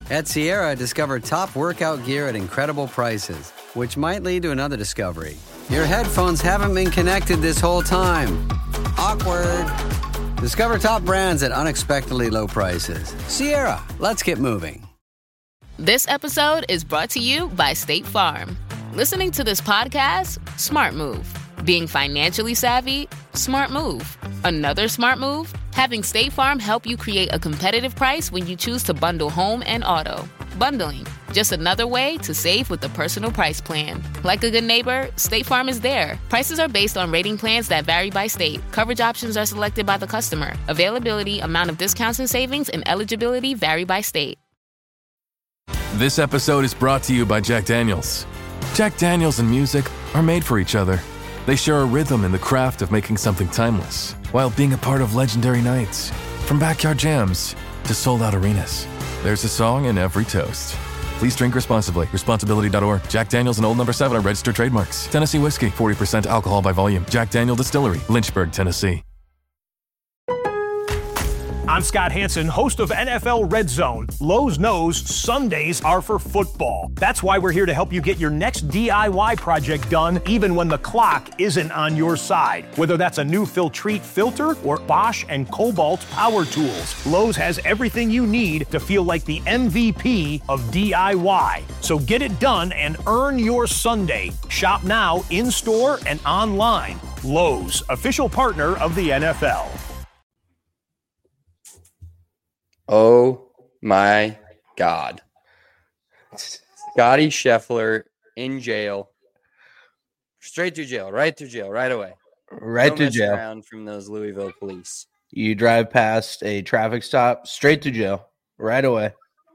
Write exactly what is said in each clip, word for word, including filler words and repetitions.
At Sierra, discover top workout gear at incredible prices, which might lead to another discovery. Your headphones haven't been connected this whole time. Awkward. Discover top brands at unexpectedly low prices. Sierra, let's get moving. This episode is brought to you by State Farm. Listening to this podcast? Smart move. Being financially savvy? Smart move. Another smart move? Having State Farm help you create a competitive price when you choose to bundle home and auto. Bundling, just another way to save with the Personal Price Plan. Like a good neighbor, State Farm is there. Prices are based on rating plans that vary by state. Coverage options are selected by the customer. Availability, amount of discounts and savings, and eligibility vary by state. This episode is brought to you by Jack Daniels. Jack Daniels and music are made for each other. They share a rhythm in the craft of making something timeless, while being a part of legendary nights. From backyard jams to sold-out arenas, there's a song in every toast. Please drink responsibly. Responsibility dot org. Jack Daniels and Old Number seven are registered trademarks. Tennessee whiskey, forty percent alcohol by volume. Jack Daniel Distillery, Lynchburg, Tennessee. I'm Scott Hansen, host of N F L Red Zone. Lowe's knows Sundays are for football. That's why we're here to help you get your next D I Y project done, even when the clock isn't on your side. Whether that's a new Filtrete filter or Bosch and Cobalt power tools, Lowe's has everything you need to feel like the M V P of D I Y. So get it done and earn your Sunday. Shop now, in-store and online. Lowe's, official partner of the N F L. Oh my God. Scotty Scheffler in jail. Straight to jail, right to jail, right away. Right no to jail. Around from those Louisville police. You drive past a traffic stop, straight to jail, right away.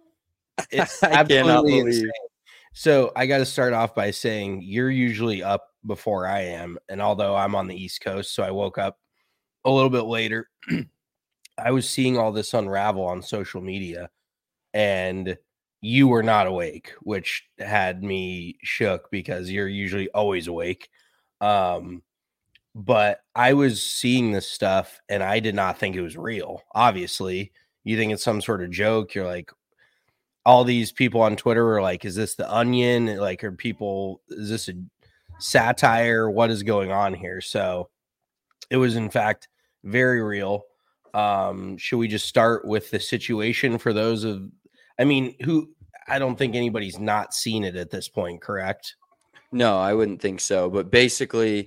It's I cannot believe. Insane. So I got to start off by saying you're usually up before I am. And although I'm on the East Coast, so I woke up a little bit later, I was seeing all this unravel on social media, and you were not awake, which had me shook because you're usually always awake. Um, but I was seeing this stuff, and I did not think it was real. Obviously, you think it's some sort of joke. You're like, all these people on Twitter are like, is this the Onion? Like, are people, is this a satire? What is going on here? So it was, in fact, very real. Um, should we just start with the situation for those of, I mean, who, I don't think anybody's not seen it at this point, correct? No, I wouldn't think so. But basically,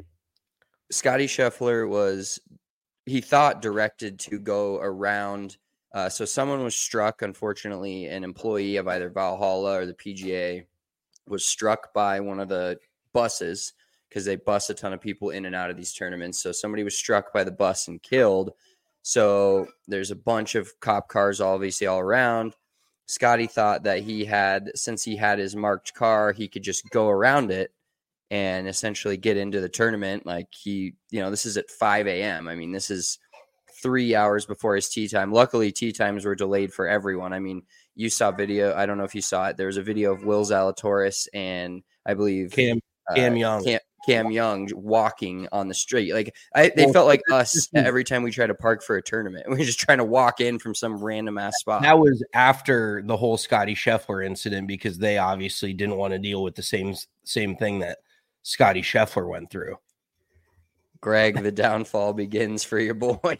Scotty Scheffler was, he thought directed to go around. Uh, so someone was struck, unfortunately, an employee of either Valhalla or the P G A was struck by one of the buses because they bus a ton of people in and out of these tournaments. So somebody was struck by the bus and killed. So there's a bunch of cop cars, obviously, all around. Scotty thought that he had, since he had his marked car, he could just go around it and essentially get into the tournament. Like he, you know, this is at five a.m. I mean, this is three hours before his tee time. Luckily, tee times were delayed for everyone. I mean, you saw video. I don't know if you saw it. There was a video of Will Zalatoris and I believe Cam, Cam uh, Young. Cam, Cam Young walking on the street. Like I, they well, felt like us every time we try to park for a tournament. We're just trying to walk in from some random ass spot. That was after the whole Scotty Scheffler incident because they obviously didn't want to deal with the same same thing that Scotty Scheffler went through. Greg, the downfall begins for your boy.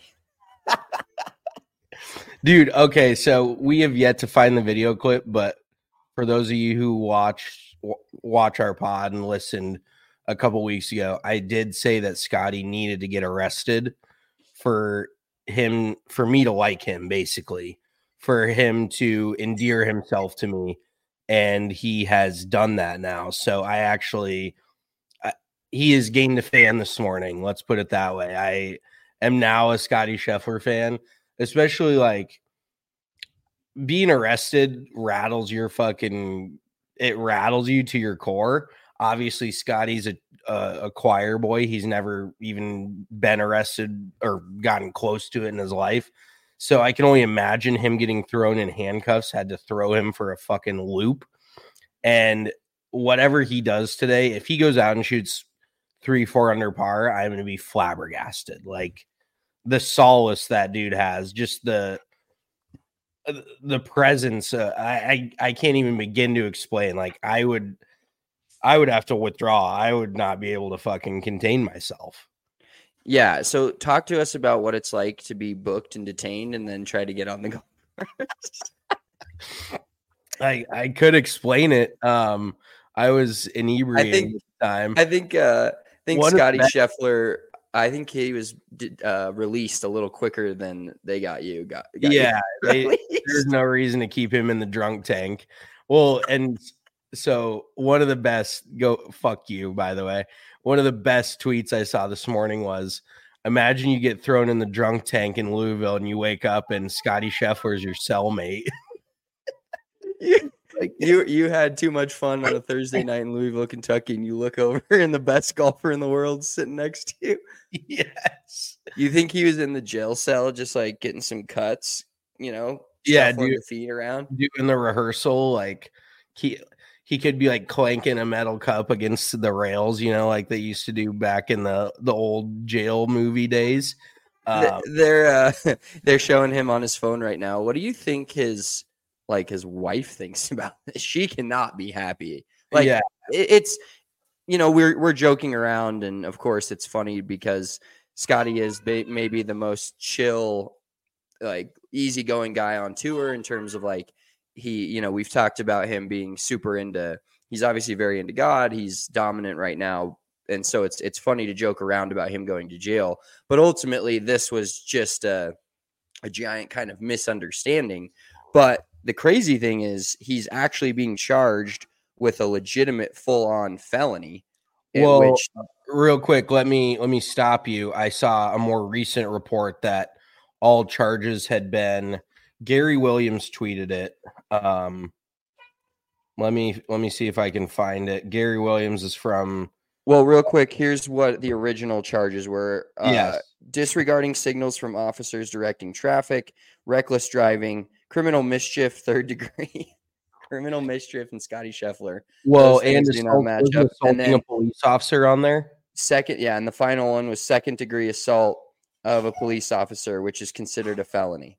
Dude, okay, so we have yet to find the video clip, but for those of you who watch watch our pod and listened a couple weeks ago, I did say that Scotty needed to get arrested for him, for me to like him, basically, for him to endear himself to me. And he has done that now. So I actually, I, he has gained a fan this morning. Let's put it that way. I am now a Scotty Scheffler fan, especially like being arrested rattles your fucking, it rattles you to your core. Obviously, Scotty's a, a, a choir boy. He's never even been arrested or gotten close to it in his life. So I can only imagine him getting thrown in handcuffs, had to throw him for a fucking loop. And whatever he does today, if he goes out and shoots three, four under par, I'm going to be flabbergasted. Like the solace that dude has, just the, the presence. Uh, I, I I can't even begin to explain. Like I would, I would have to withdraw. I would not be able to fucking contain myself. Yeah. So talk to us about what it's like to be booked and detained, and then try to get on the golf course. I I could explain it. Um, I was inebriated I think, at the time. I think. Uh, I think One of Scotty the- Scheffler. I think he was uh, released a little quicker than they got you. Got, got yeah, you they, released. there's no reason to keep him in the drunk tank. Well, and so one of the best go fuck you, by the way. One of the best tweets I saw this morning was, imagine you get thrown in the drunk tank in Louisville and you wake up and Scotty Scheffler is your cellmate. you, like, you you had too much fun on a Thursday night in Louisville, Kentucky, and you look over and the best golfer in the world sitting next to you. Yes. You think he was in the jail cell just like getting some cuts, you know? Yeah, shuffling dude. the feet around. Doing the rehearsal, like he he could be like clanking a metal cup against the rails, you know, like they used to do back in the the old jail movie days. Um, they're uh, they're showing him on his phone right now. What do you think his like his wife thinks about this? She cannot be happy. Like yeah. it, it's you know we're we're joking around, and of course it's funny because Scotty is ba- maybe the most chill, like easygoing guy on tour in terms of like he you know we've talked about him being super into. He's obviously very into God. He's dominant right now. And so it's it's funny to joke around about him going to jail. But ultimately, this was just a, a giant kind of misunderstanding. But the crazy thing is he's actually being charged with a legitimate full-on felony. Well, which, real quick, let me let me stop you. I saw a more recent report that all charges had been Gary Williams tweeted it. Um, let me let me see if I can find it. Gary Williams is from well, real quick, here's what the original charges were. Uh, Yes. Disregarding signals from officers directing traffic, reckless driving, criminal mischief, third degree, criminal mischief, and Scotty Scheffler. well, Those things and do not assault, match wasn't up. And assaulting then a police officer on there. second, yeah, and the final one was second degree assault of a police officer, which is considered a felony.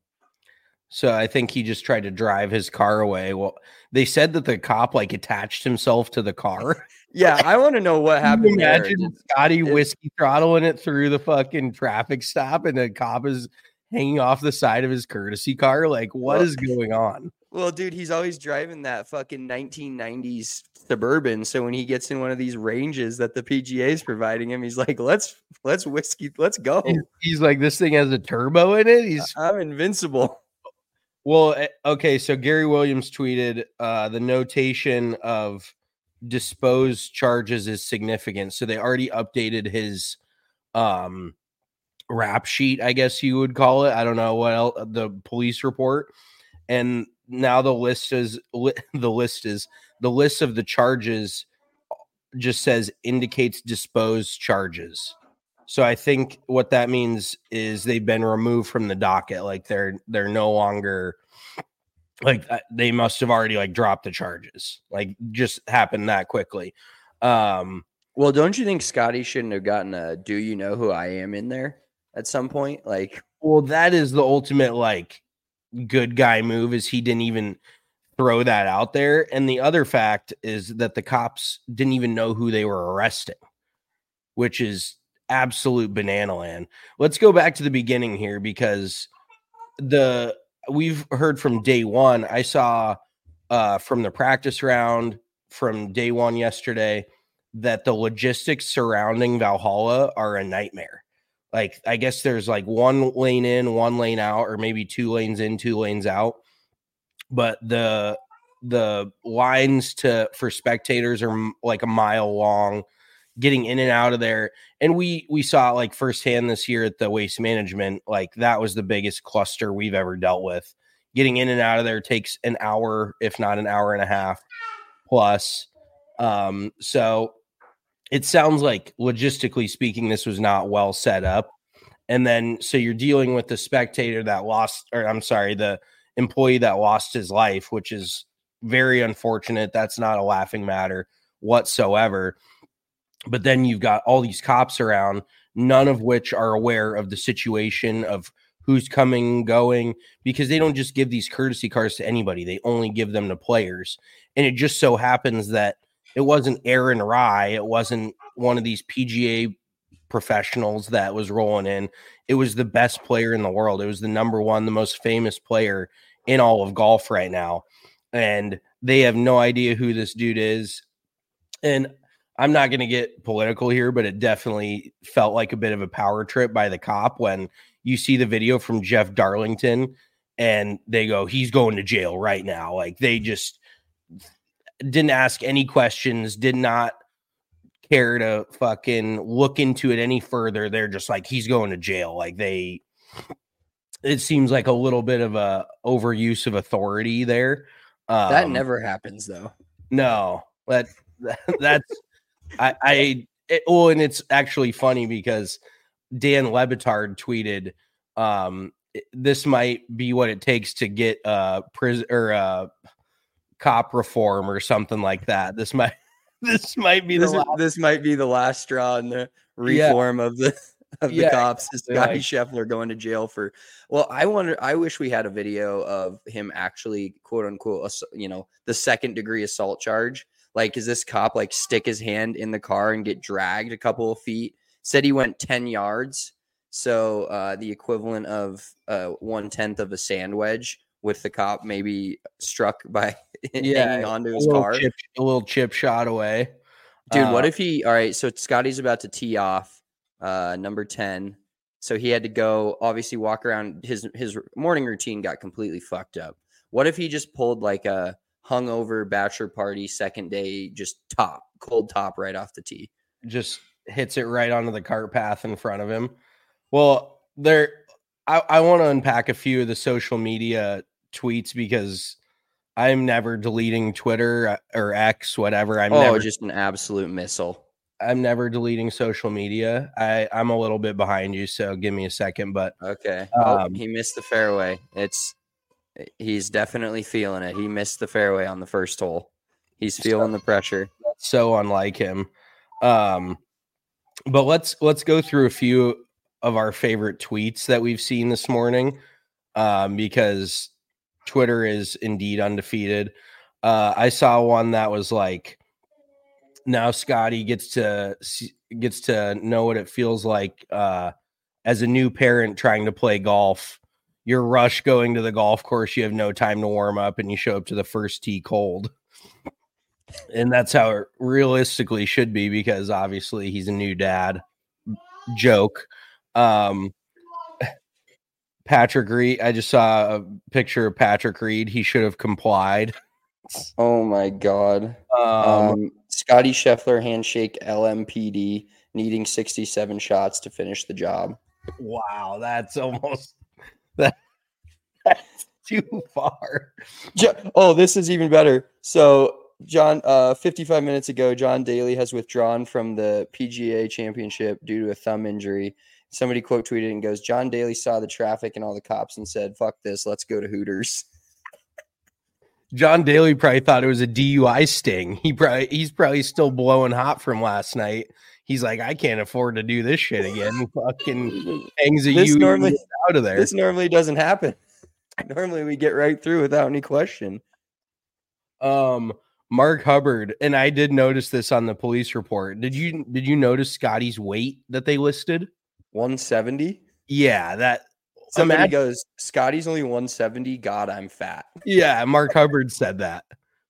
So I think he just tried to drive his car away. Well, they said that the cop like attached himself to the car. Yeah, I want to know what Can happened you there. imagine Scotty whiskey throttling it through the fucking traffic stop and the cop is hanging off the side of his courtesy car? Like, what Well- is going on? Well, dude, he's always driving that fucking nineteen nineties Suburban. So when he gets in one of these ranges that the P G A is providing him, he's like, "Let's let's whiskey, let's go. He's, he's like, this thing has a turbo in it. He's I'm invincible." well, eh, okay. So Gary Williams tweeted uh, the notation of disposed charges is significant. So they already updated his um, rap sheet, I guess you would call it. I don't know what else, the police report, and now the list is li- the list is the list of the charges just says indicates disposed charges. So I think what that means is they've been removed from the docket. Like they're they're no longer like uh, they must have already like dropped the charges. Like just happened that quickly. Um Well, don't you think Scotty shouldn't have gotten a "Do you know who I am" in there at some point? Like, well, that is the ultimate like good guy move is he didn't even throw that out there. And the other fact is that the cops didn't even know who they were arresting, which is absolute banana land. Let's go back to the beginning here because the we've heard from day one. I saw uh, from the practice round from day one yesterday that the logistics surrounding Valhalla are a nightmare. Like, I guess there's like one lane in, one lane out, or maybe two lanes in, two lanes out. But the the lines to for spectators are m- like a mile long, getting in and out of there. And we we saw it like firsthand this year at the Waste Management. Like that was the biggest cluster we've ever dealt with. Getting in and out of there takes an hour, if not an hour and a half plus. Um, so it sounds like logistically speaking, this was not well set up. And then so you're dealing with the spectator that lost, or I'm sorry, the employee that lost his life, which is very unfortunate. That's not a laughing matter whatsoever. But then you've got all these cops around, none of which are aware of the situation of who's coming, going, because they don't just give these courtesy cars to anybody. They only give them to players. And it just so happens that it wasn't Aaron Rye. It wasn't one of these P G A professionals that was rolling in. It was the best player in the world. It was the number one, the most famous player in all of golf right now. And they have no idea who this dude is. And I'm not going to get political here, but it definitely felt like a bit of a power trip by the cop when you see the video from Jeff Darlington and they go, he's going to jail right now. Like, they just didn't ask any questions, did not care to fucking look into it any further. They're just like, he's going to jail. Like, they, it seems like a little bit of a overuse of authority there. Um, that never happens though. No, that, that that's, I, I, it, well, and it's actually funny because Dan Lebitard tweeted, um, this might be what it takes to get uh prison or uh cop reform or something like that. This might, this might be the this, last. this might be the last straw in the reform yeah. of the of the yeah, cops. Is Scotty like, Scheffler going to jail for? Well, I wonder. I wish we had a video of him actually, quote unquote, you know, the second degree assault charge. Like, is this cop like stick his hand in the car and get dragged a couple of feet? Said he went ten yards, so uh, the equivalent of uh, one tenth of a sand wedge, with the cop maybe struck by yeah, hanging onto his a car. Chip, a little chip shot away. Dude, uh, what if he, all right, so Scotty's about to tee off uh, number ten. So he had to go, obviously walk around. His, his morning routine got completely fucked up. What if he just pulled like a hungover bachelor party second day, just top, cold top right off the tee? Just hits it right onto the cart path in front of him. Well, there, I, I want to unpack a few of the social media tweets because I'm never deleting Twitter or X, whatever. I'm oh, never, just an absolute missile. I'm never deleting social media. I, I'm a little bit behind you, so give me a second. But okay, um, oh, he missed the fairway. It's he's definitely feeling it. He missed the fairway on the first hole. He's feeling so, the pressure. That's so unlike him. Um, but let's let's go through a few of our favorite tweets that we've seen this morning, um, because Twitter is indeed undefeated. Uh, I saw one that was like, now Scotty gets to gets to know what it feels like uh, as a new parent trying to play golf. You're rush going to the golf course. You have no time to warm up, and you show up to the first tee cold. And that's how it realistically should be, because obviously he's a new dad. Joke. Um, Patrick Reed. I just saw a picture of Patrick Reed. He should have complied. Oh my God. Um, um, Scotty Scheffler handshake L M P D needing sixty-seven shots to finish the job. Wow, that's almost that, that's too far. Oh, this is even better. So, John, uh, fifty-five minutes ago, John Daly has withdrawn from the P G A Championship due to a thumb injury. Somebody quote tweeted and goes, John Daly saw the traffic and all the cops and said, fuck this, let's go to Hooters. John Daly probably thought it was a D U I sting. He probably he's probably still blowing hot from last night. He's like, I can't afford to do this shit again. Fucking hangs a this U normally out of there. This normally doesn't happen. Normally we get right through without any question. Um, Mark Hubbard, and I did notice this on the police report. Did you did you notice Scotty's weight that they listed? one seventy? Yeah, that somebody imagine, goes, Scotty's only one seventy. God, I'm fat. Yeah, Mark Hubbard said that.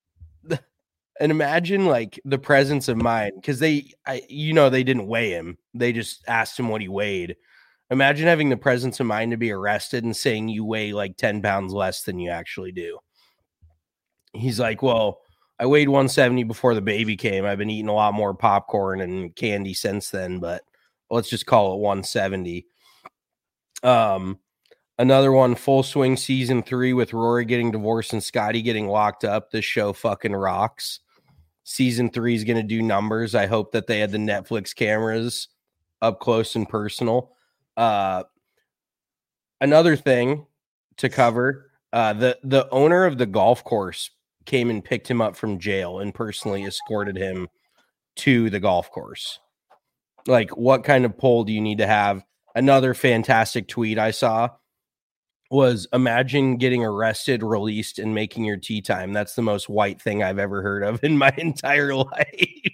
And imagine like the presence of mind, because they, I, you know, they didn't weigh him. They just asked him what he weighed. Imagine having the presence of mind to be arrested and saying you weigh like ten pounds less than you actually do. He's like, well, I weighed one seventy before the baby came. I've been eating a lot more popcorn and candy since then, but let's just call it one seventy. Um, another one, Full Swing season three with Rory getting divorced and Scotty getting locked up. This show fucking rocks. Season three is going to do numbers. I hope that they had the Netflix cameras up close and personal. Uh, another thing to cover, uh, the, the owner of the golf course came and picked him up from jail and personally escorted him to the golf course. Like, what kind of pull do you need to have? Another fantastic tweet I saw. was imagine getting arrested, released, and making your tea time. That's the most white thing I've ever heard of in my entire life.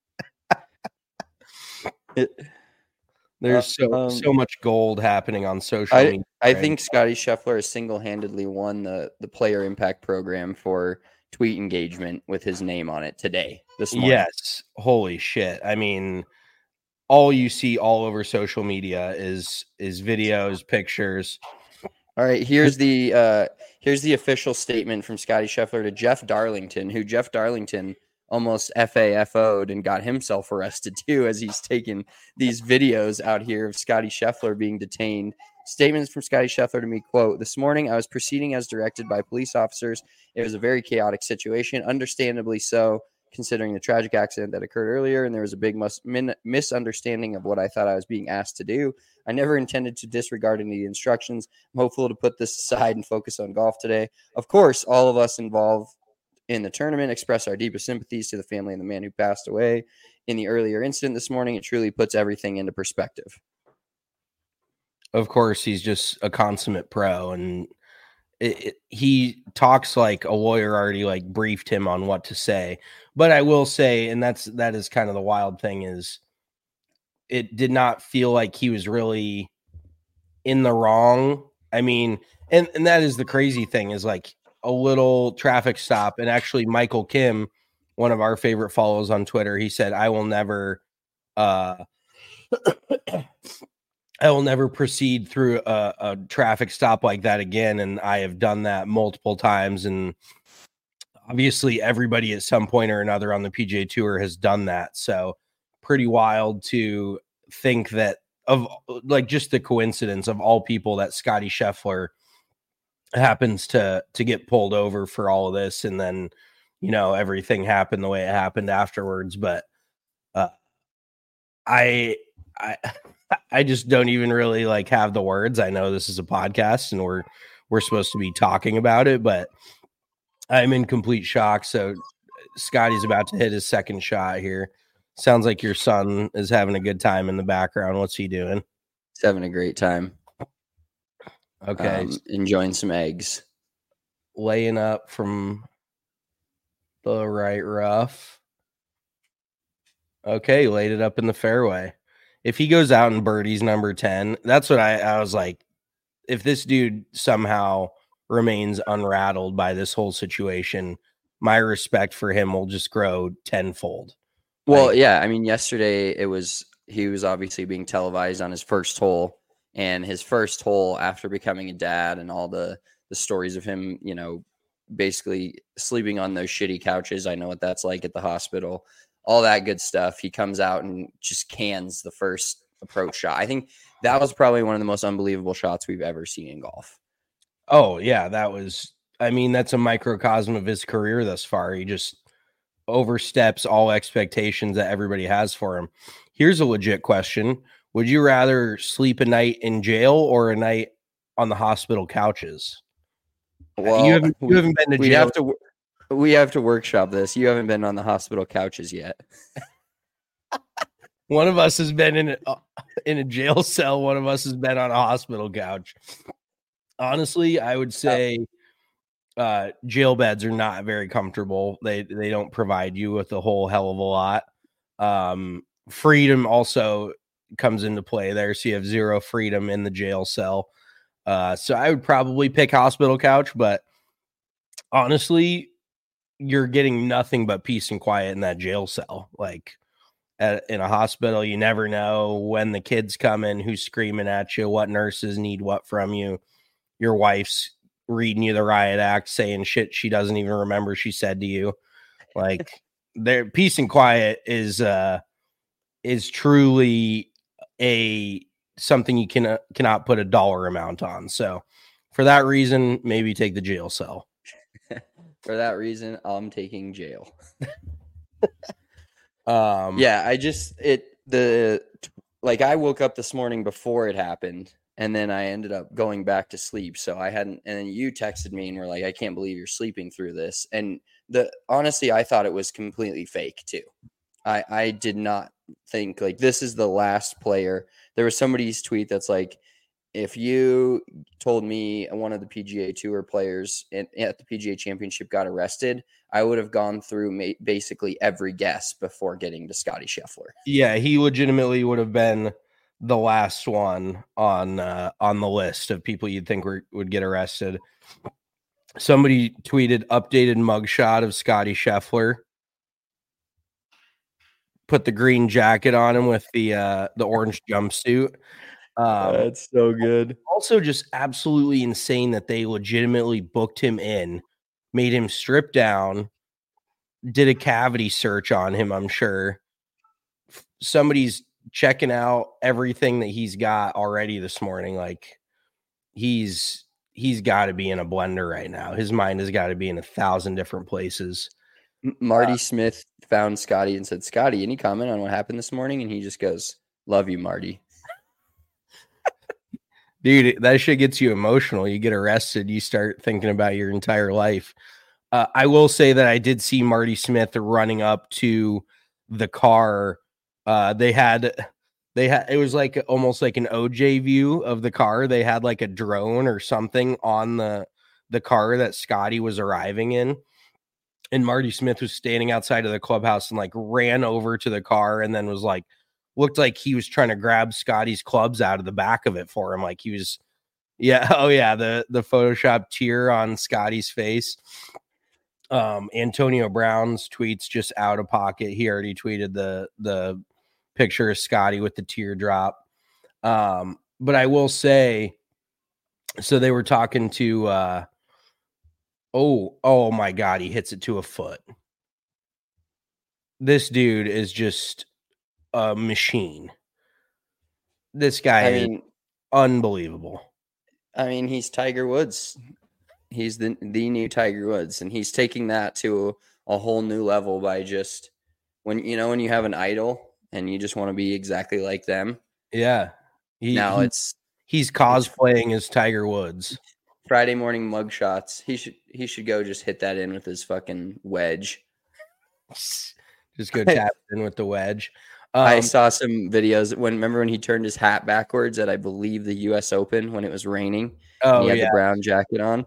it, There's so um, so much gold happening on social I, media. I think Scotty Scheffler has single-handedly won the, the Player Impact Program for tweet engagement with his name on it today, this morning. Yes. Holy shit. I mean, all you see all over social media is is videos, pictures. All right, here's the uh, here's the official statement from Scotty Scheffler to Jeff Darlington, who Jeff Darlington almost F A F O'd and got himself arrested too, as he's taken these videos out here of Scotty Scheffler being detained. Statements from Scotty Scheffler to me, quote, "This morning I was proceeding as directed by police officers. It was a very chaotic situation, understandably so, considering the tragic accident that occurred earlier, and there was a big mus- min- misunderstanding of what I thought I was being asked to do. I never intended to disregard any instructions. I'm hopeful to put this aside and focus on golf today. Of course, all of us involved in the tournament express our deepest sympathies to the family and the man who passed away in the earlier incident this morning. It truly puts everything into perspective." Of course, he's just a consummate pro, and it, it, he talks like a lawyer already like briefed him on what to say. But I will say, and that's that is kind of the wild thing, is it did not feel like he was really in the wrong. I mean, and, and that is the crazy thing, is like a little traffic stop. And actually, Michael Kim, one of our favorite follows on Twitter, he said, I will never uh I will never proceed through a, a traffic stop like that again. And I have done that multiple times. And obviously everybody at some point or another on the P G A Tour has done that. So pretty wild to think that, of like just the coincidence of all people, that Scotty Scheffler happens to to get pulled over for all of this. And then, you know, everything happened the way it happened afterwards. But uh, I, I, I just don't even really like have the words. I know this is a podcast and we're we're supposed to be talking about it, but I'm in complete shock. So Scotty's about to hit his second shot here. Sounds like your son is having a good time in the background. What's he doing? He's having a great time. Okay. Um, enjoying some eggs. Laying up from the right rough. Okay, laid it up in the fairway. If he goes out and birdies number ten, that's what I, I was like, if this dude somehow remains unrattled by this whole situation, my respect for him will just grow tenfold. Well, Like, yeah, I mean, yesterday it was, he was obviously being televised on his first hole, and his first hole after becoming a dad and all the, the stories of him, you know, basically sleeping on those shitty couches. I know what that's like at the hospital. All that good stuff. He comes out and just cans the first approach shot. I think that was probably one of the most unbelievable shots we've ever seen in golf. Oh, yeah, that was, I mean, that's a microcosm of his career thus far. He just oversteps all expectations that everybody has for him. Here's a legit question. Would you rather sleep a night in jail or a night on the hospital couches? Well, you haven't, you we, haven't been to we jail. have to we have to workshop this. You haven't been on the hospital couches yet. One of us has been in a, in a jail cell. One of us has been on a hospital couch. Honestly, I would say uh, jail beds are not very comfortable. They they don't provide you with a whole hell of a lot. Um, freedom also comes into play there, so you have zero freedom in the jail cell. Uh, so I would probably pick hospital couch, but honestly, you're getting nothing but peace and quiet in that jail cell. Like at, in a hospital, you never know when the kids come in, who's screaming at you, what nurses need what from you. Your wife's reading you the riot act, saying shit she doesn't even remember she said to you. Like their peace and quiet is uh is truly a something you can uh, cannot put a dollar amount on. So for that reason, maybe take the jail cell. For that reason, I'm taking jail. um Yeah, I just it the like I woke up this morning before it happened, and then I ended up going back to sleep. So I hadn't, and then you texted me and were like, I can't believe you're sleeping through this. And the honestly, I thought it was completely fake too. I I did not think like this is the last player. There was somebody's tweet that's like, if you told me one of the P G A Tour players in, at the P G A Championship got arrested, I would have gone through ma- basically every guess before getting to Scotty Scheffler. Yeah, he legitimately would have been the last one on uh, on the list of people you'd think were, would get arrested. Somebody tweeted updated mugshot of Scotty Scheffler. Put the green jacket on him with the uh, the orange jumpsuit. Um, That's so good. Also, just absolutely insane that they legitimately booked him in, made him strip down, did a cavity search on him. I'm sure somebody's checking out everything that he's got already this morning. Like he's he's got to be in a blender right now. His mind has got to be in a thousand different places. Marty Uh, Smith found Scotty and said, Scotty, any comment on what happened this morning? And he just goes, love you, Marty. Dude, that shit gets you emotional. You get arrested, you start thinking about your entire life. Uh, I will say that I did see Marty Smith running up to the car. Uh, they had, they had, it was like almost like an O J view of the car. They had like a drone or something on the, the car that Scotty was arriving in. And Marty Smith was standing outside of the clubhouse and like ran over to the car and then was like, looked like he was trying to grab Scotty's clubs out of the back of it for him. Like he was, yeah. Oh yeah. The, the Photoshop tear on Scotty's face. Um, Antonio Brown's tweets just out of pocket. He already tweeted the, the picture of Scotty with the teardrop. Um, but I will say, so they were talking to, uh, oh, oh my God, he hits it to a foot. This dude is just a machine. This guy I is mean, unbelievable. I mean, he's Tiger Woods. He's the the new Tiger Woods, and he's taking that to a whole new level by just when you know when you have an idol and you just want to be exactly like them. Yeah. He, now he, it's he's cosplaying as Tiger Woods. Friday morning mug shots. He should he should go just hit that in with his fucking wedge. Just go tap in with the wedge. Um, I saw some videos when remember when he turned his hat backwards at I believe the U S Open when it was raining. Oh, and he had yeah. the brown jacket on.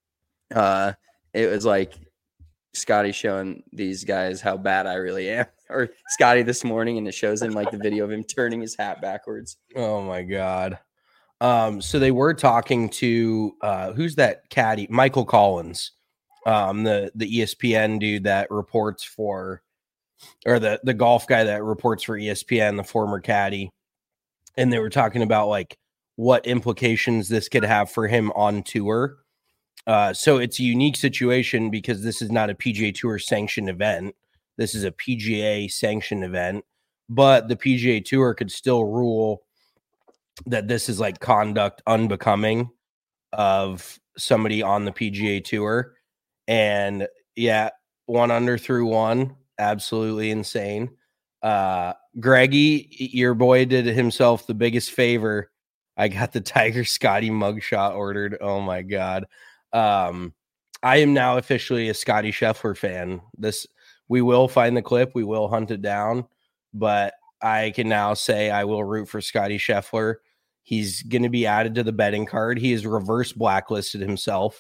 Uh, it was like Scotty showing these guys how bad I really am, or Scotty this morning, and it shows him like the video of him turning his hat backwards. Oh my God. Um, so they were talking to uh, who's that caddy? Michael Collins, um, the the E S P N dude that reports for, or the the golf guy that reports for E S P N, the former caddy, and they were talking about like what implications this could have for him on tour. Uh, so it's a unique situation because this is not a P G A Tour sanctioned event. This is a P G A sanctioned event, but the P G A Tour could still rule that this is like conduct unbecoming of somebody on the P G A Tour. And yeah, one under through one, absolutely insane. Uh, Greggy, your boy did himself the biggest favor. I got the Tiger Scotty mugshot ordered. Oh my God. Um, I am now officially a Scotty Scheffler fan. This, we will find the clip. We will hunt it down, but I can now say I will root for Scotty Scheffler. He's going to be added to the betting card. He is reverse blacklisted himself,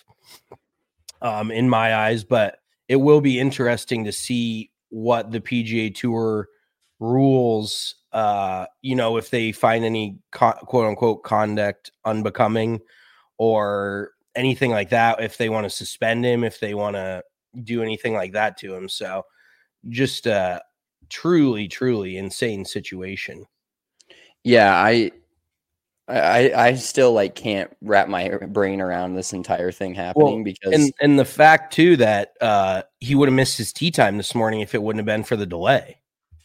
um, in my eyes, but it will be interesting to see what the P G A Tour rules, uh, you know, if they find any co- quote unquote conduct unbecoming or anything like that, if they want to suspend him, if they want to do anything like that to him. So just a truly, truly insane situation. Yeah, I, I, I still like can't wrap my brain around this entire thing happening Well, because and and the fact too that uh, he would have missed his tee time this morning if it wouldn't have been for the delay.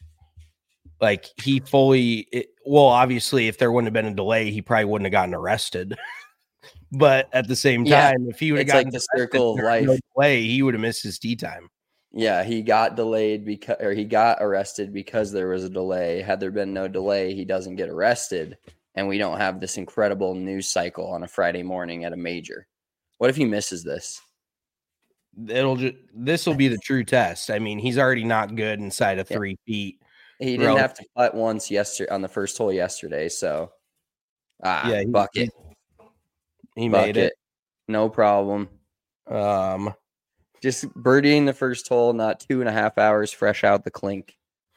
Like he fully, it, well, obviously, if there wouldn't have been a delay, he probably wouldn't have gotten arrested. But at the same time, yeah, if he would have it's gotten like the circle of life. No delay, he would have missed his tee time. Yeah, he got delayed because, or he got arrested because there was a delay. Had there been no delay, he doesn't get arrested, and we don't have this incredible news cycle on a Friday morning at a major. What if he misses this? It'll just this will be the true test. I mean, he's already not good inside of three yeah. feet. He didn't Bro. have to putt once yesterday on the first hole yesterday, so ah, yeah, he, bucket. He made Bucket. it. No problem. Um, Just birdieing the first hole, not two and a half hours fresh out the clink.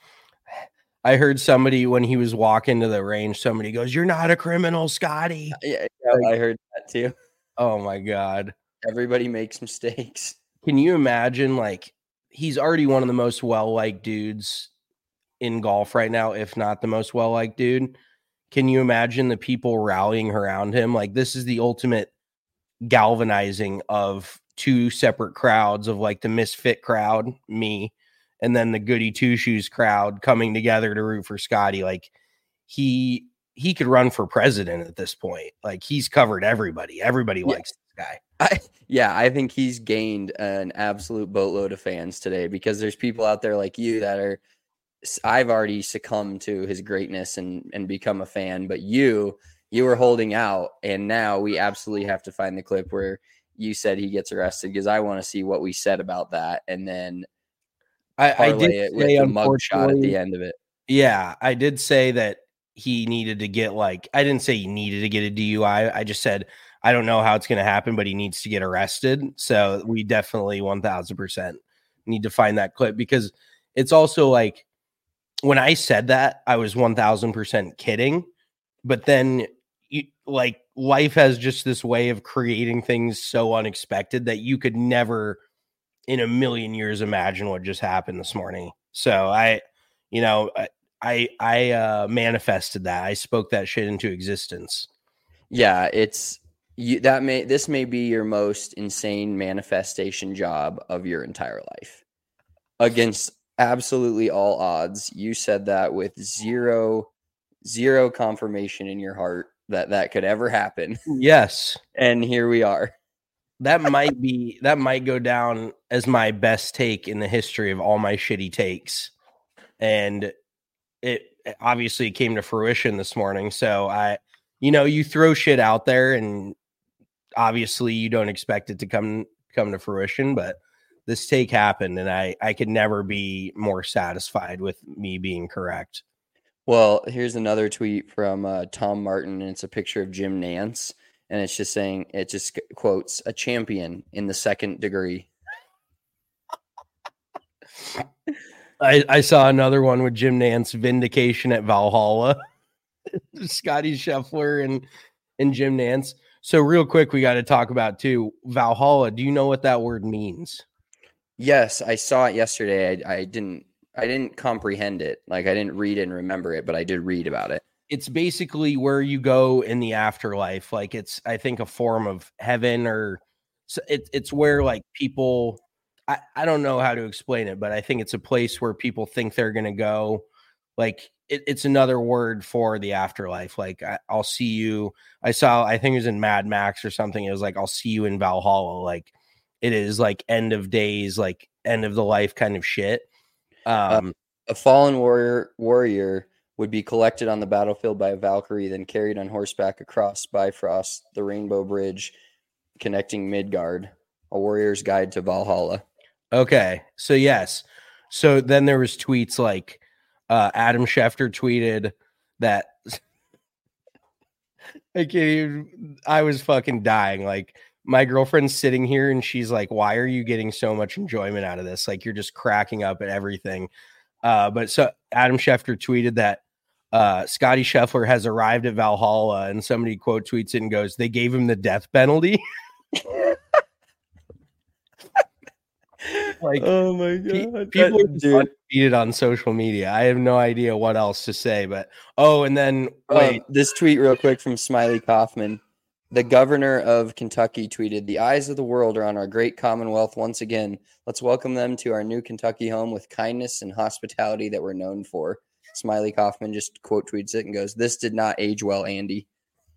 I heard somebody when he was walking to the range, somebody goes, "You're not a criminal, Scotty." Yeah, yeah Like, I heard that too. Oh my God. Everybody makes mistakes. Can you imagine, like, he's already one of the most well-liked dudes in golf right now, if not the most well-liked dude. Can you imagine the people rallying around him? Like, this is the ultimate galvanizing of two separate crowds, of like the misfit crowd, me, and then the goody two shoes crowd coming together to root for Scotty. Like, he he could run for president at this point. Like, he's covered everybody. Everybody Yeah. likes this guy. I, yeah, I think he's gained an absolute boatload of fans today because there's people out there like you that are, I've already succumbed to his greatness and, and become a fan, but you, you were holding out, and now we absolutely have to find the clip where you said he gets arrested, because I want to see what we said about that, and then I, I did parlay it with say, the mug shot at the unfortunately, end of it. yeah, I did say that he needed to get, like, I didn't say he needed to get a D U I. I just said, I don't know how it's going to happen, but he needs to get arrested. So we definitely one thousand percent need to find that clip, because it's also like, when I said that, I was one thousand percent kidding. But then, you, like, life has just this way of creating things so unexpected that you could never in a million years imagine what just happened this morning. So I, you know, I, I, I uh, manifested that. I spoke that shit into existence. Yeah, it's you that may this may be your most insane manifestation job of your entire life. Against absolutely all odds, you said that with zero zero confirmation in your heart that that could ever happen. Yes. And here we are. That might be that might go down as my best take in the history of all my shitty takes. And it obviously came to fruition this morning. So I, you know, you throw shit out there and obviously you don't expect it to come come to fruition, but this take happened, and I I could never be more satisfied with me being correct. Well, here's another tweet from uh, Tom Martin, and it's a picture of Jim Nance, and it's just saying, it just quotes, "A champion in the second degree." I, I saw another one with Jim Nance, vindication at Valhalla. Scotty Scheffler and and Jim Nance. So real quick, we got to talk about too Valhalla. Do you know what that word means? Yes, I saw it yesterday. I, I didn't I didn't comprehend it. Like, I didn't read it and remember it, but I did read about it. It's basically where you go in the afterlife. Like, it's, I think, a form of heaven, or so it, it's where, like, people, I, I don't know how to explain it, but I think it's a place where people think they're going to go. Like, it, it's another word for the afterlife. Like, I, I'll see you. I saw, I think it was in Mad Max or something. It was like, I'll see you in Valhalla. Like, it is like end of days, like end of the life kind of shit. Um, uh, a fallen warrior warrior would be collected on the battlefield by a Valkyrie, then carried on horseback across Bifrost, the Rainbow Bridge connecting Midgard. A warrior's guide to Valhalla. Okay, so yes. So then there was tweets like uh, Adam Schefter tweeted that I can't even, I was fucking dying. Like, my girlfriend's sitting here and she's like, "Why are you getting so much enjoyment out of this? Like, you're just cracking up at everything." Uh, but so Adam Schefter tweeted that uh, Scotty Scheffler has arrived at Valhalla, and somebody quote tweets it and goes, "They gave him the death penalty." Like, oh my pe- god, people that, are just undefeated on social media. I have no idea what else to say, but oh, and then wait, um, this tweet real quick from Smiley Kaufman. The governor of Kentucky tweeted, "The eyes of the world are on our great Commonwealth once again. Let's welcome them to our new Kentucky home with kindness and hospitality that we're known for." Smiley Kaufman just quote tweets it and goes, "This did not age well, Andy."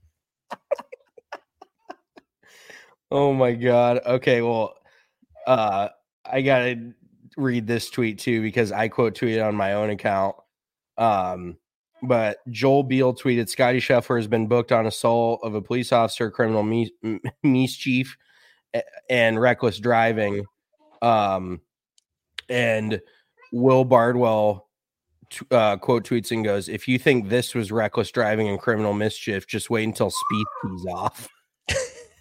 Oh my god. Okay, well, uh, I gotta read this tweet too because I quote tweeted on my own account. Um, but Joel Beal tweeted, "Scotty Scheffler has been booked on assault of a police officer, criminal mis- mischief, and reckless driving." Um, and Will Bardwell uh, quote tweets and goes, "If you think this was reckless driving and criminal mischief, just wait until speed tees off."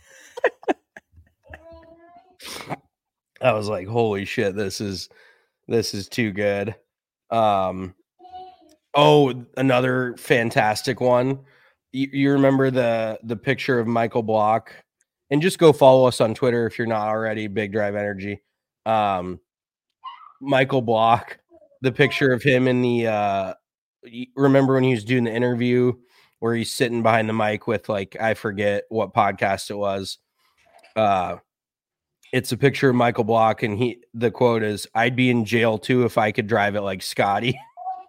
I was like, holy shit, this is this is too good. Um oh, another fantastic one. You, you remember the the picture of Michael Block? And just go follow us on Twitter if you're not already, Big Drive Energy. Um Michael Block, the picture of him in the uh remember when he was doing the interview where he's sitting behind the mic with, like, I forget what podcast it was. Uh It's a picture of Michael Block, and he the quote is, "I'd be in jail too if I could drive it like Scotty."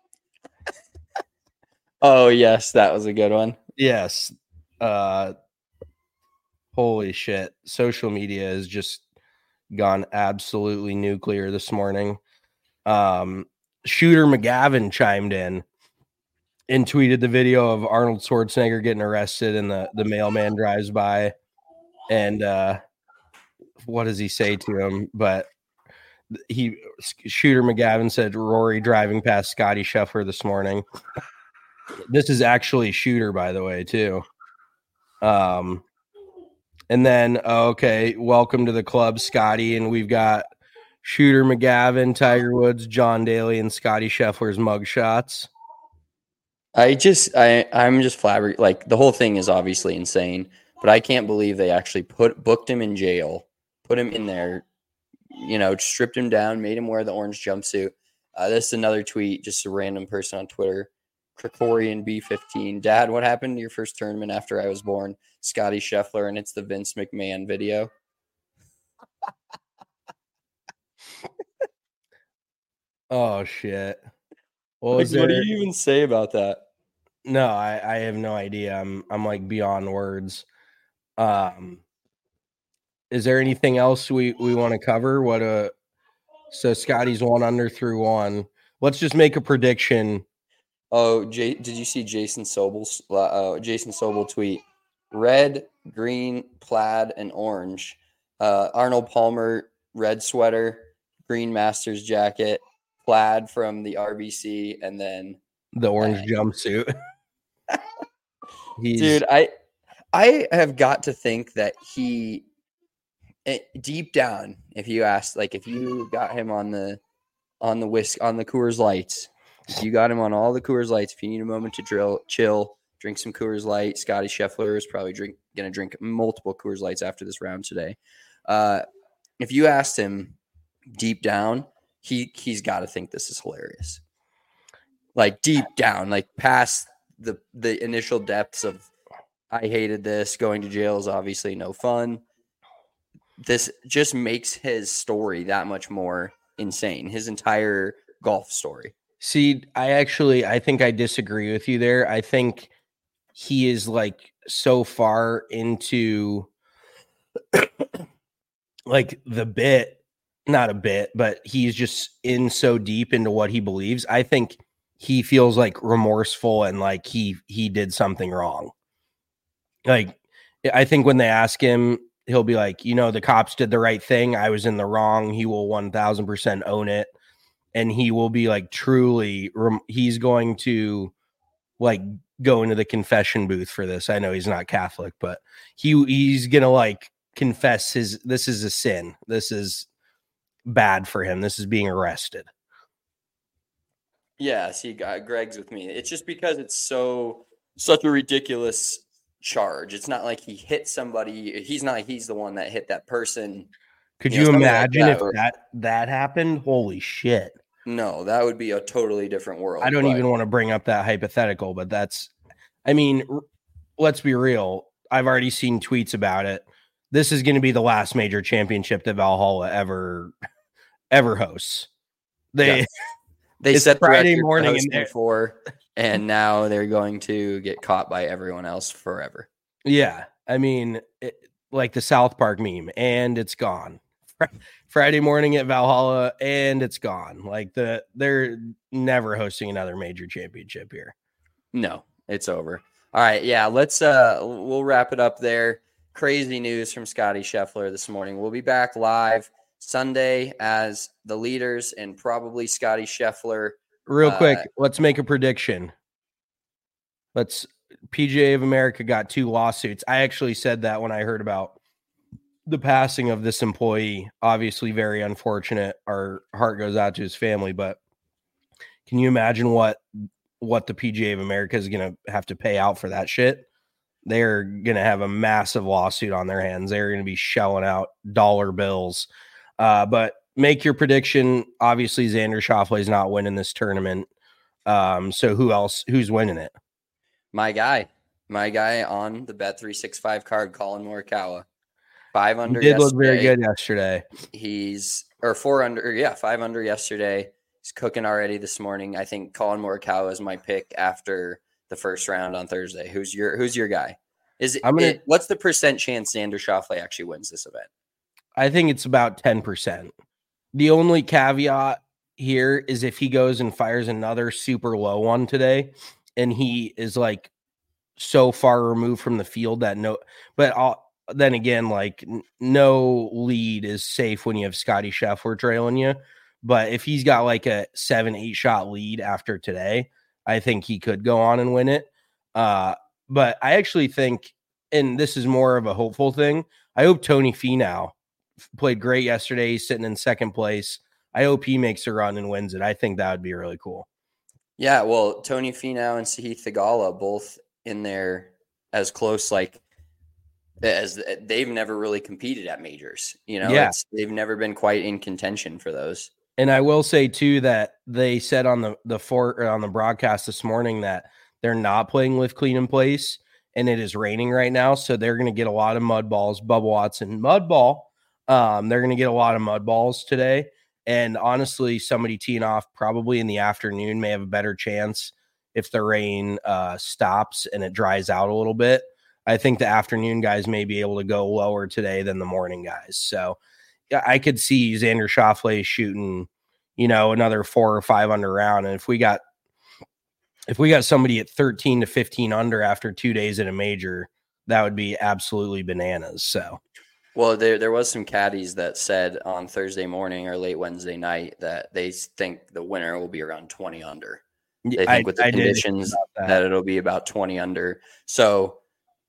Oh yes, that was a good one. Yes. Uh, holy shit. Social media has just gone absolutely nuclear this morning. Um, Shooter McGavin chimed in and tweeted the video of Arnold Schwarzenegger getting arrested, and the, the mailman drives by, and uh, what does he say to him? But he Shooter McGavin said Rory driving past Scotty Scheffler this morning. This is actually Shooter, by the way, too. Um, and then okay, welcome to the club, Scotty, and we've got Shooter McGavin, Tiger Woods, John Daly, and Scotty Scheffler's mugshots. I just I I'm just flabbergasted. Like, the whole thing is obviously insane, but I can't believe they actually put booked him in jail, put him in there, you know, stripped him down, made him wear the orange jumpsuit. Uh, this is another tweet, just a random person on Twitter. Krikorian B fifteen. Dad, what happened to your first tournament after I was born? Scotty Scheffler, and it's the Vince McMahon video. Oh shit. What, Like, there... what do you even say about that? No, I, I have no idea. I'm I'm like beyond words. Um is there anything else we, we want to cover? What a so Scotty's one under through one. Let's just make a prediction. Oh, Jay, did you see Jason Sobel's uh, Jason Sobel tweet? Red, green, plaid, and orange. Uh, Arnold Palmer, red sweater, green Masters jacket, plaid from the R B C, and then the orange uh, jumpsuit. He's... Dude, I I have got to think that he, deep down, if you asked, like, if you got him on the on the whisk on the Coors Lights. If you got him on all the Coors Lights, if you need a moment to drill, chill, drink some Coors Light. Scotty Scheffler is probably drink, going to drink multiple Coors Lights after this round today. Uh, if you asked him deep down, he, he's got to think this is hilarious. Like, deep down, like past the, the initial depths of, I hated this, going to jail is obviously no fun. This just makes his story that much more insane, his entire golf story. See, I actually, I think I disagree with you there. I think he is like so far into like the bit, not a bit, but he's just in so deep into what he believes. I think he feels like remorseful and like he, he did something wrong. Like, I think when they ask him, he'll be like, you know, the cops did the right thing. I was in the wrong. He will one thousand percent own it. And he will be like truly, he's going to like go into the confession booth for this. I know he's not Catholic, but he he's going to like confess his, this is a sin. This is bad for him. This is being arrested. Yeah, see, Greg's with me. It's just because it's so, such a ridiculous charge. It's not like he hit somebody. He's not, he's the one that hit that person. Could you, you know, imagine like that, if or, that, that happened? Holy shit. No, that would be a totally different world. I don't but... even want to bring up that hypothetical, but that's, I mean, r- let's be real. I've already seen tweets about it. This is going to be the last major championship that Valhalla ever, ever hosts. They, yeah. they set Friday the morning in before, and now they're going to get caught by everyone else forever. Yeah. I mean, it, like the South Park meme, and it's gone. Friday morning at Valhalla, and it's gone. Like the they're never hosting another major championship here. No, it's over. All right, yeah, let's uh we'll wrap it up there. Crazy news from Scotty Scheffler this morning. We'll be back live Sunday as the leaders and probably Scotty Scheffler. Real uh, quick, let's make a prediction. Let's P G A of America got two lawsuits. I actually said that when I heard about the passing of this employee, obviously very unfortunate. Our heart goes out to his family, but can you imagine what what the P G A of America is going to have to pay out for that shit? They're going to have a massive lawsuit on their hands. They're going to be shelling out dollar bills. Uh, but make your prediction. Obviously, Xander Schauffele is not winning this tournament. Um, so who else? Who's winning it? My guy. My guy on the Bet three sixty-five card, Colin Morikawa. Five under He did yesterday. look very good yesterday. He's, or four under, yeah, five under yesterday. He's cooking already this morning. I think Colin Morikawa is my pick after the first round on Thursday. Who's your Who's your guy? Is it, I'm gonna, it what's the percent chance Xander Schauffele actually wins this event? I think it's about ten percent. The only caveat here is if he goes and fires another super low one today, and he is like so far removed from the field that no, but I'll, then again, like n- no lead is safe when you have Scotty Scheffler trailing you. But if he's got like a seven, eight shot lead after today, I think he could go on and win it. Uh, but I actually think, and this is more of a hopeful thing, I hope Tony Finau played great yesterday. He's sitting in second place. I hope he makes a run and wins it. I think that would be really cool. Yeah, well, Tony Finau and Sahith Theegala both in there as close, like, as they've never really competed at majors. You know, yeah. it's, they've never been quite in contention for those. And I will say too that they said on the the for on the broadcast this morning that they're not playing Live Clean in Place, and it is raining right now, so they're going to get a lot of mud balls. Bubba Watson mud ball. Um, they're going to get a lot of mud balls today. And honestly, somebody teeing off probably in the afternoon may have a better chance if the rain uh, stops and it dries out a little bit. I think the afternoon guys may be able to go lower today than the morning guys. So yeah, I could see Xander Schauffele shooting, you know, another four or five under round. And if we got, if we got somebody at thirteen to fifteen under after two days in a major, that would be absolutely bananas. So, well, there, there was some caddies that said on Thursday morning or late Wednesday night that they think the winner will be around twenty under. They think I, with the I conditions that. that it'll be about twenty under. So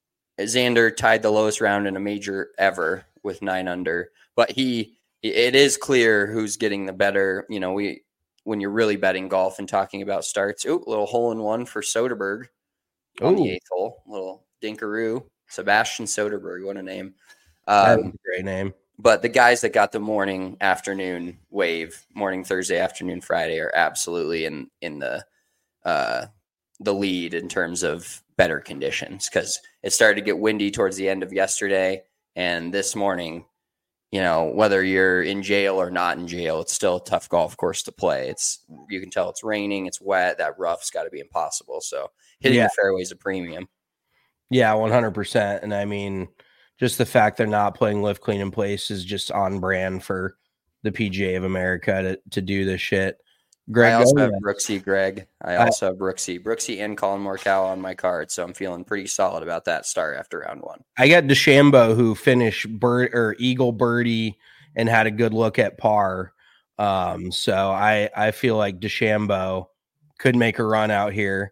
Xander tied the lowest round in a major ever with nine under, but he, it is clear who's getting the better, you know, we, when you're really betting golf and talking about starts, ooh, little hole in one for Soderberg on Ooh. the eighth hole, little dinkaroo, Sebastian Soderberg, what a name. Um, Um, great name. But the guys that got the morning, afternoon wave, morning Thursday, afternoon Friday, are absolutely in in the uh, the lead in terms of better conditions, because it started to get windy towards the end of yesterday, and this morning, you know, whether you're in jail or not in jail, it's still a tough golf course to play. It's, you can tell it's raining, it's wet, that rough's got to be impossible. So hitting Yeah. the fairways a premium. Yeah, one hundred percent. And I mean, just the fact they're not playing Live Clean in Place is just on brand for the P G A of America to, to do this shit. Greg, I also go have ahead. Brooksy Greg. I I- also have Brooksy. Brooksy and Colin Morikawa on my card, so I'm feeling pretty solid about that start after round one. I got DeChambeau, who finished bird or Eagle birdie and had a good look at par. Um, so I I feel like DeChambeau could make a run out here.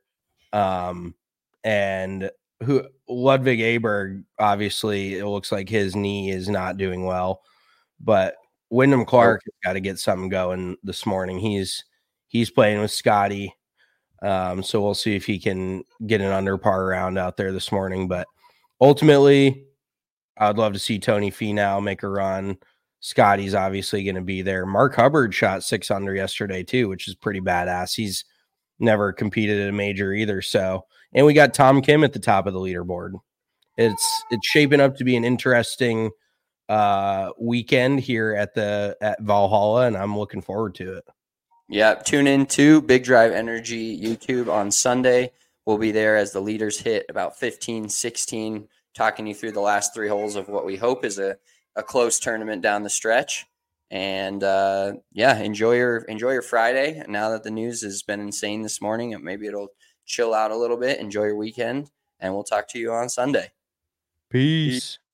Um, and who Ludwig Aberg, obviously, it looks like his knee is not doing well, but Wyndham Clark has got to get something going this morning. He's he's playing with Scotty. Um, so we'll see if he can get an under par round out there this morning. But ultimately, I'd love to see Tony Finau make a run. Scotty's obviously going to be there. Mark Hubbard shot six under yesterday too, which is pretty badass. He's never competed at a major either. So, and we got Tom Kim at the top of the leaderboard. It's it's shaping up to be an interesting uh, weekend here at the at Valhalla, and I'm looking forward to it. Yeah, tune in to Big Drive Energy YouTube on Sunday. We'll be there as the leaders hit about fifteen, sixteen, talking you through the last three holes of what we hope is a, a close tournament down the stretch. And uh, yeah, enjoy your enjoy your Friday. Now that the news has been insane this morning, maybe it'll chill out a little bit. Enjoy your weekend, and we'll talk to you on Sunday. Peace.